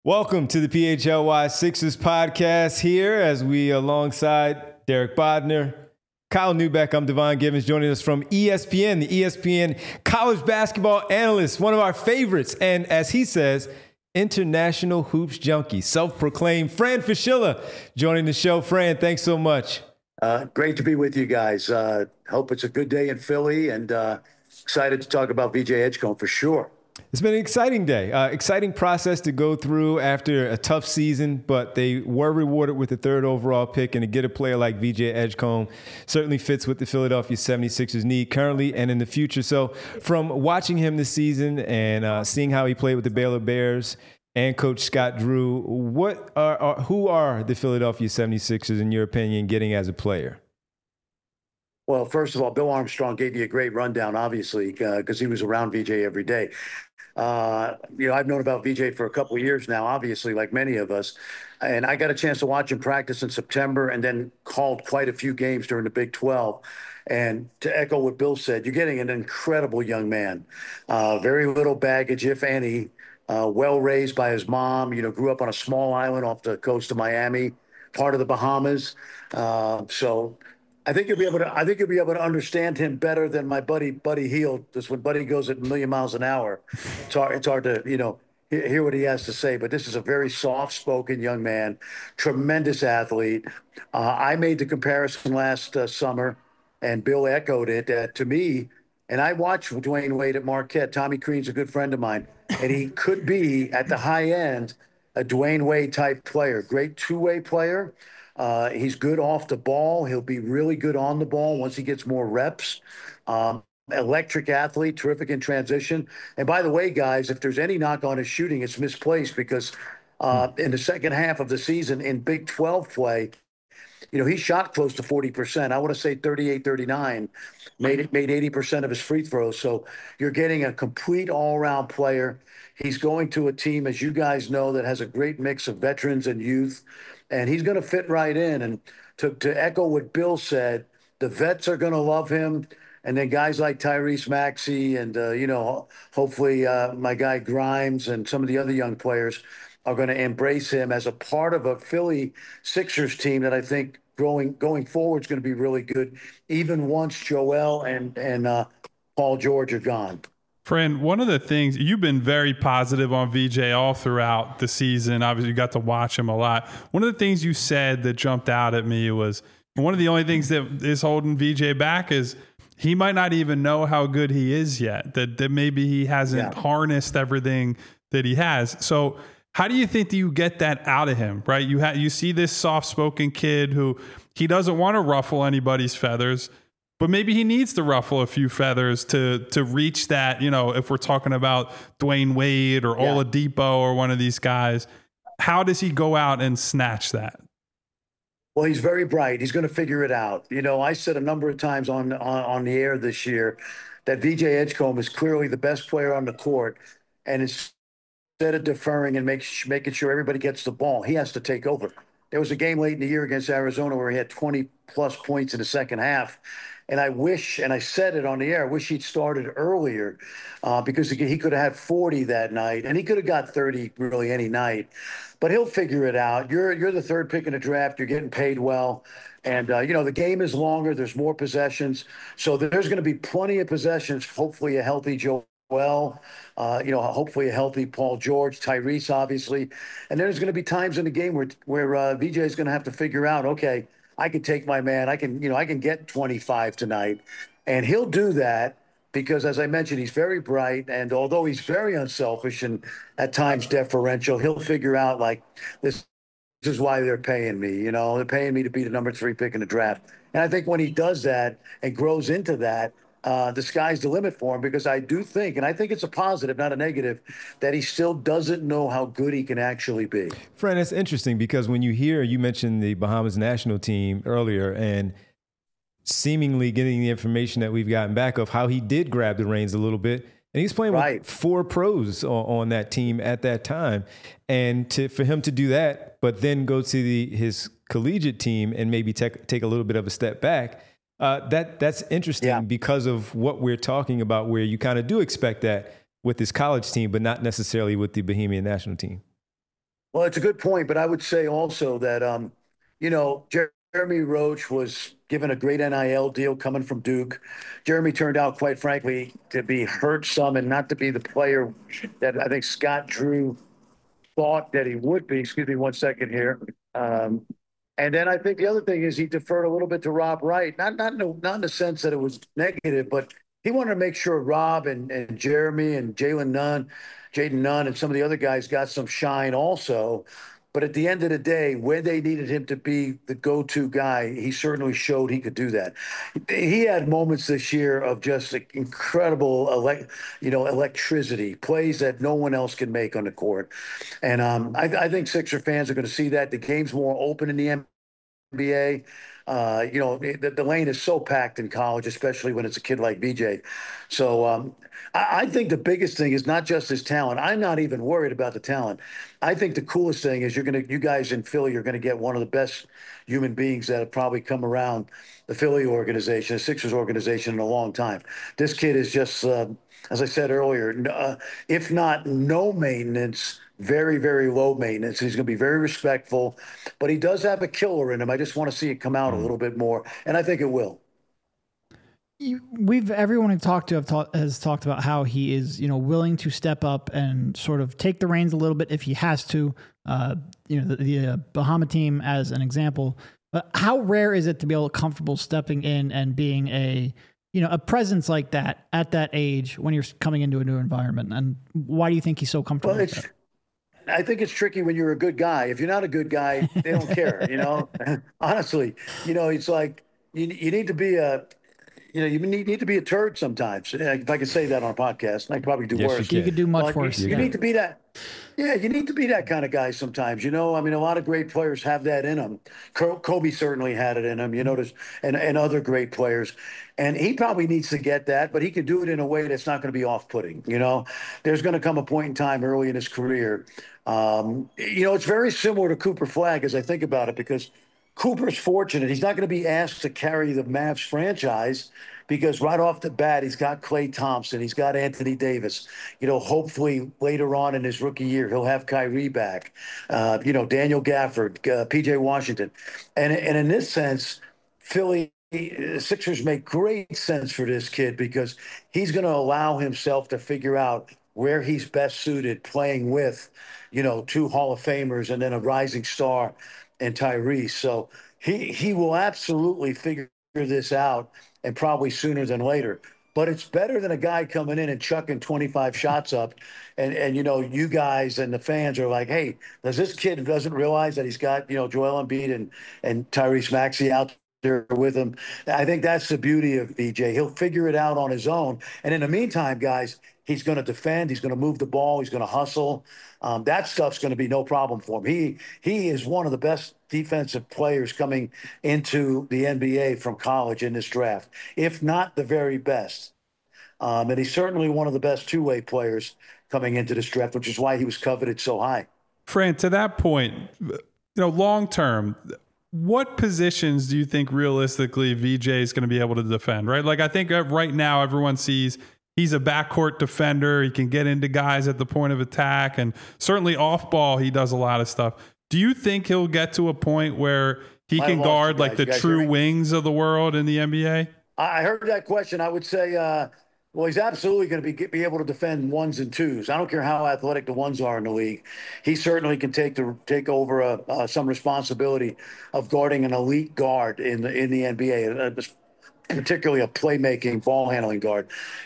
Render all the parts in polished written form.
Welcome to the PHLY Sixers podcast here as we alongside Derek Bodner, Kyle Neubeck. I'm Devon Givens joining us from ESPN, the ESPN college basketball analyst, one of our favorites. And as he says, international hoops junkie, self-proclaimed Fran Fraschilla joining the show. Fran, thanks so much. Great to be with you guys. Hope it's a good day in Philly and excited to talk about VJ Edgecombe for sure. It's been an exciting day, exciting process to go through after a tough season, but they were rewarded with the third overall pick, and to get a player like VJ Edgecombe certainly fits what the Philadelphia 76ers need currently and in the future. So from watching him this season and seeing how he played with the Baylor Bears and Coach Scott Drew, who are the Philadelphia 76ers, in your opinion, getting as a player? Well, first of all, Bill Armstrong gave you a great rundown, obviously, because he was around VJ every day. I've known about VJ for a couple of years now, obviously, like many of us. And I got a chance to watch him practice in September and then called quite a few games during the Big 12. And to echo what Bill said, you're getting an incredible young man. Very little baggage, if any. Well raised by his mom, grew up on a small island off the coast of Miami, part of the Bahamas. So I think you'll be able to understand him better than my Buddy Hield. Just when Buddy goes at a million miles an hour, it's hard to hear what he has to say. But this is a very soft-spoken young man, tremendous athlete. I made the comparison last summer, and Bill echoed it to me. And I watched Dwayne Wade at Marquette. Tommy Crean's a good friend of mine, and he could be at the high end a Dwayne Wade type player, great two-way player. He's good off the ball. He'll be really good on the ball once he gets more reps. Electric athlete, terrific in transition. And by the way, guys, if there's any knock on his shooting, it's misplaced because in the second half of the season in Big 12 play, he shot close to 40%. I want to say 38, 39, made 80% of his free throws. So you're getting a complete all-around player. He's going to a team, as you guys know, that has a great mix of veterans and youth. And he's going to fit right in. And to echo what Bill said, the vets are going to love him. And then guys like Tyrese Maxey and, hopefully my guy Grimes and some of the other young players are going to embrace him as a part of a Philly Sixers team that I think going forward is going to be really good, even once Joel and Paul George are gone. Fran, one of the things, you've been very positive on VJ all throughout the season. Obviously, you got to watch him a lot. One of the things you said that jumped out at me was one of the only things that is holding VJ back is he might not even know how good he is yet, that maybe he hasn't harnessed everything that he has. So how do you think that you get that out of him, right? You see this soft-spoken kid who he doesn't want to ruffle anybody's feathers, but maybe he needs to ruffle a few feathers to reach that, if we're talking about Dwayne Wade or Oladipo or one of these guys. How does he go out and snatch that? Well, he's very bright. He's going to figure it out. I said a number of times on the air this year that VJ Edgecombe is clearly the best player on the court, and instead of deferring and making sure everybody gets the ball, he has to take over. There was a game late in the year against Arizona where he had 20-plus points in the second half. And I wish, and I said it on the air, I wish he'd started earlier because he could have had 40 that night, and he could have got 30 really any night. But he'll figure it out. You're the third pick in the draft. You're getting paid well. And, the game is longer. There's more possessions. So there's going to be plenty of possessions, hopefully a healthy Joel. Hopefully a healthy Paul George, Tyrese, obviously. And there's going to be times in the game where VJ is going to have to figure out, okay, I can take my man. I can get 25 tonight. And he'll do that because, as I mentioned, he's very bright. And although he's very unselfish and at times deferential, he'll figure out, like, this is why they're paying me. They're paying me to be the number 3 pick in the draft. And I think when he does that and grows into that, the sky's the limit for him, because I do think, and I think it's a positive, not a negative, that he still doesn't know how good he can actually be. Fran, it's interesting because when you mentioned the Bahamas national team earlier and seemingly getting the information that we've gotten back of how he did grab the reins a little bit. And he's playing with 4 pros on that team at that time. And for him to do that, but then go to his collegiate team and maybe take a little bit of a step back, that's interesting because of what we're talking about, where you kind of do expect that with this college team, but not necessarily with the Bohemian national team. Well, it's a good point, but I would say also that, Jeremy Roach was given a great NIL deal coming from Duke. Jeremy turned out, quite frankly, to be hurt some and not to be the player that I think Scott Drew thought that he would be. Excuse me one second here. And then I think the other thing is he deferred a little bit to Rob Wright, not in the sense that it was negative, but he wanted to make sure Rob and Jeremy and Jaden Nunn, and some of the other guys got some shine also. But at the end of the day, where they needed him to be the go-to guy, he certainly showed he could do that. He had moments this year of just incredible, electricity, plays that no one else can make on the court. And I think Sixer fans are going to see that. The game's more open in the NBA. The lane is so packed in college, especially when it's a kid like VJ. So I think the biggest thing is not just his talent. I'm not even worried about the talent. I think the coolest thing is you guys in Philly are going to get one of the best human beings that have probably come around the Philly organization, the Sixers organization, in a long time. This kid is just, as I said earlier, if not no maintenance, very, very low maintenance. He's going to be very respectful, but he does have a killer in him. I just want to see it come out a little bit more, and I think it will. Everyone I've talked to has talked about how he is, willing to step up and sort of take the reins a little bit if he has to. The Bahama team as an example. But how rare is it to be able to comfortable stepping in and being a presence like that at that age when you're coming into a new environment? And why do you think he's so comfortable with that? I think it's tricky when you're a good guy. If you're not a good guy, they don't care, Honestly, it's like you need to be you need to be a turd sometimes. If I could say that on a podcast, I probably do worse. You could do much worse. You need to be that. Yeah, you need to be that kind of guy sometimes. A lot of great players have that in them. Kobe certainly had it in him. And other great players. And he probably needs to get that, but he can do it in a way that's not going to be off-putting. There's going to come a point in time early in his career. It's very similar to Cooper Flagg as I think about it, because Cooper's fortunate. He's not going to be asked to carry the Mavs franchise because right off the bat, he's got Klay Thompson. He's got Anthony Davis. Hopefully later on in his rookie year, he'll have Kyrie back. Daniel Gafford, PJ Washington. And in this sense, Philly Sixers make great sense for this kid because he's going to allow himself to figure out where he's best suited playing with, two Hall of Famers and then a rising star and Tyrese. So he will absolutely figure this out, and probably sooner than later. But it's better than a guy coming in and chucking 25 shots up. And you guys and the fans are like, hey, does this kid doesn't realize that he's got, Joel Embiid and Tyrese Maxey out there with him? I think that's the beauty of VJ. He'll figure it out on his own. And in the meantime, guys, he's going to defend. He's going to move the ball. He's going to hustle. That stuff's going to be no problem for him. He is one of the best defensive players coming into the NBA from college in this draft, if not the very best. And he's certainly one of the best two-way players coming into this draft, which is why he was coveted so high. Fran, to that point, long term, what positions do you think realistically VJ is going to be able to defend, right? Like, I think right now everyone sees he's a backcourt defender. He can get into guys at the point of attack, and certainly off ball, he does a lot of stuff. Do you think he'll get to a point where he can guard like the true wings of the world in the NBA? I heard that question. I would say, well, he's absolutely going to be able to defend ones and twos. I don't care how athletic the ones are in the league. He certainly can take over some responsibility of guarding an elite guard in the NBA, particularly a playmaking, ball handling guard.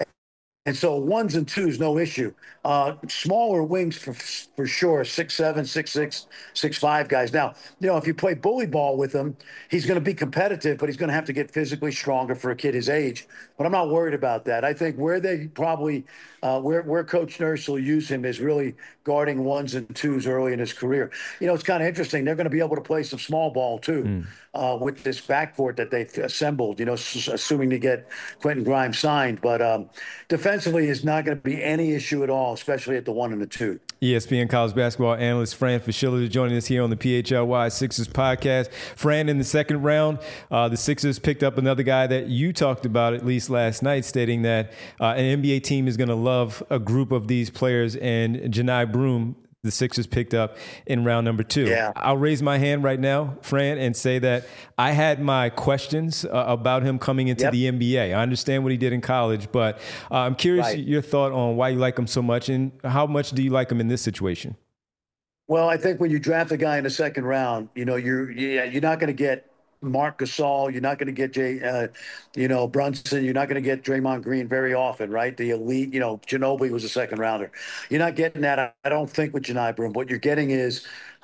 And so ones and twos, no issue. Smaller wings for sure, 6'7", 6'6", 6'5" guys. Now, if you play bully ball with him, he's going to be competitive, but he's going to have to get physically stronger for a kid his age. But I'm not worried about that. I think where they probably where Coach Nurse will use him is really guarding ones and twos early in his career. It's kind of interesting. They're going to be able to play some small ball too with this backcourt that they've assembled. Assuming to get Quentin Grimes signed, but defensively is not going to be any issue at all, especially at the 1 and the 2. ESPN college basketball analyst Fran Fraschilla joining us here on the PHLY Sixers podcast. Fran, in the second round, the Sixers picked up another guy that you talked about at least last night, stating that an NBA team is going to love a group of these players, and Janai Broome the Sixers picked up in round number 2. Yeah. I'll raise my hand right now, Fran, and say that I had my questions about him coming into the NBA. I understand what he did in college, but I'm curious your thought on why you like him so much and how much do you like him in this situation? Well, I think when you draft a guy in the second round, you're not going to get Marc Gasol. You're not going to get Brunson. You're not going to get Draymond Green very often, right? The elite, Ginobili was a second rounder. You're not getting that, I don't think, with Johni Broome. What you're getting is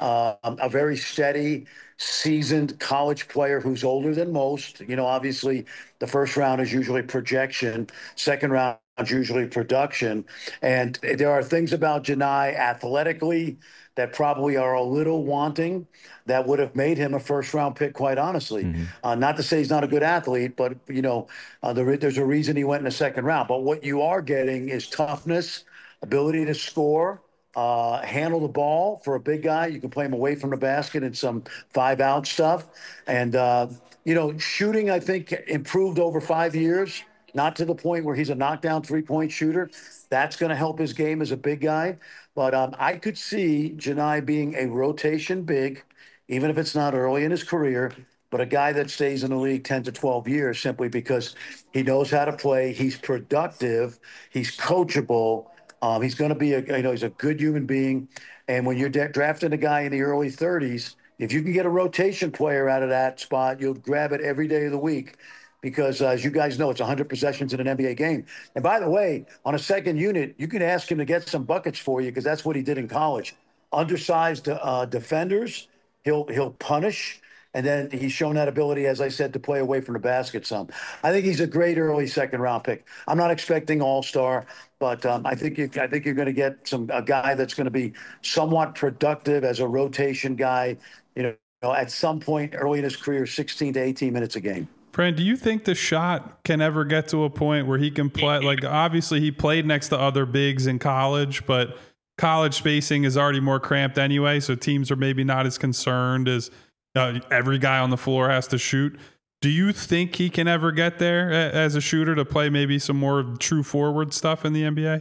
a very steady, seasoned college player who's older than most. Obviously, the first round is usually projection. Second round is usually production. And there are things about Johni athletically that probably are a little wanting that would have made him a first-round pick, quite honestly. Mm-hmm. Not to say he's not a good athlete, but, there's a reason he went in the second round. But what you are getting is toughness, ability to score, handle the ball for a big guy. You can play him away from the basket and some 5-out stuff. And, shooting, I think, improved over 5 years, not to the point where he's a knockdown three-point shooter. That's going to help his game as a big guy. But I could see Johni being a rotation big, even if it's not early in his career, but a guy that stays in the league 10 to 12 years simply because he knows how to play. He's productive. He's coachable. He's going to be he's a good human being. And when you're drafting a guy in the early 30s, if you can get a rotation player out of that spot, you'll grab it every day of the week. Because, as you guys know, it's 100 possessions in an NBA game. And by the way, on a second unit, you can ask him to get some buckets for you because that's what he did in college. Undersized defenders, he'll punish. And then he's shown that ability, as I said, to play away from the basket some. I think he's a great early second-round pick. I'm not expecting all-star, but I think you're going to get a guy that's going to be somewhat productive as a rotation guy, at some point early in his career, 16 to 18 minutes a game. Fran, do you think the shot can ever get to a point where he can play? Like, obviously, he played next to other bigs in college, but college spacing is already more cramped anyway, so teams are maybe not as concerned as every guy on the floor has to shoot. Do you think he can ever get there as a shooter to play maybe some more true forward stuff in the NBA?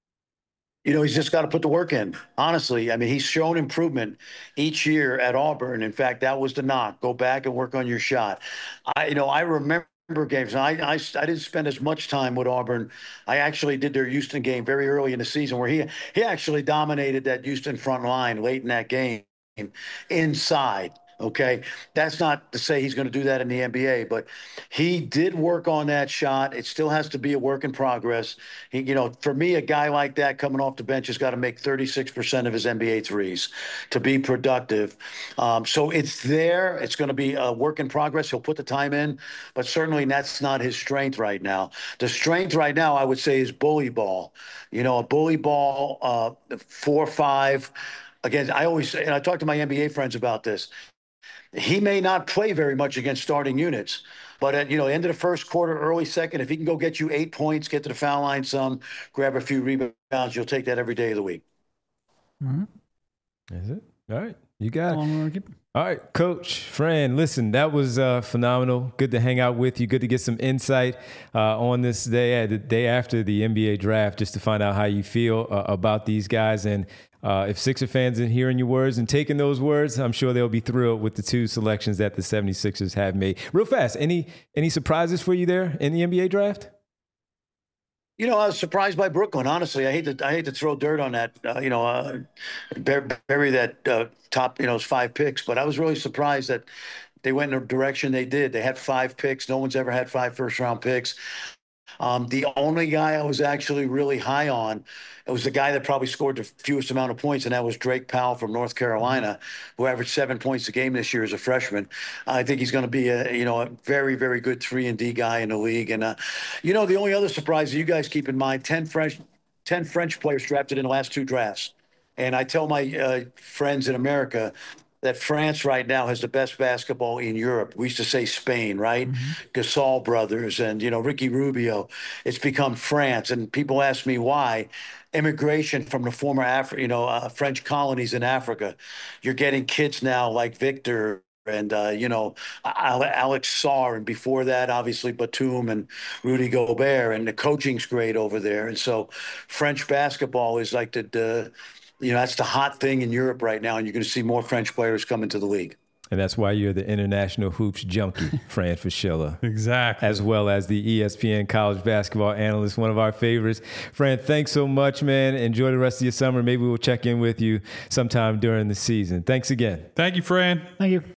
He's just got to put the work in. Honestly, I mean, he's shown improvement each year at Auburn. In fact, that was the knock. Go back and work on your shot. I remember games. I didn't spend as much time with Auburn. I actually did their Houston game very early in the season where he actually dominated that Houston front line late in that game inside. Okay, that's not to say he's going to do that in the NBA, but he did work on that shot. It still has to be a work in progress. For me, a guy like that coming off the bench has got to make 36% of his NBA threes to be productive. So it's there. It's going to be a work in progress. He'll put the time in, but certainly that's not his strength right now. The strength right now, I would say, is bully ball. A bully ball, 4-5. Again, I talk to my NBA friends about this. He may not play very much against starting units, but at end of the first quarter, early second, if he can go get you 8 points, get to the foul line some, grab a few rebounds, you'll take that every day of the week. Mm-hmm. That's it. All right, you got it. All right, Coach Fran, listen, that was phenomenal. Good to hang out with you. Good to get some insight on this day, the day after the NBA draft, just to find out how you feel about these guys. And if Sixer fans are hearing your words and taking those words, I'm sure they'll be thrilled with the 2 selections that the 76ers have made. Real fast, any surprises for you there in the NBA draft? I was surprised by Brooklyn. Honestly, I hate to throw dirt on that. Bury that top, 5 picks. But I was really surprised that they went in the direction they did. They had 5 picks. No one's ever had 5 first-round picks. The only guy I was actually really high on, it was the guy that probably scored the fewest amount of points, and that was Drake Powell from North Carolina, who averaged 7 points a game this year as a freshman. I think he's going to be a very, very good 3-and-D guy in the league. And the only other surprise that you guys keep in mind: 10 French players drafted in the last 2 drafts. And I tell my friends in America that France right now has the best basketball in Europe. We used to say Spain, right? Mm-hmm. Gasol brothers and, Ricky Rubio. It's become France. And people ask me why. Immigration from the former French colonies in Africa. You're getting kids now like Victor and, Alex Sarr. And before that, obviously, Batum and Rudy Gobert. And the coaching's great over there. And so French basketball is like the that's the hot thing in Europe right now, and you're going to see more French players come into the league. And that's why you're the international hoops junkie, Fran Fraschilla. Exactly. As well as the ESPN college basketball analyst, one of our favorites. Fran, thanks so much, man. Enjoy the rest of your summer. Maybe we'll check in with you sometime during the season. Thanks again. Thank you, Fran. Thank you.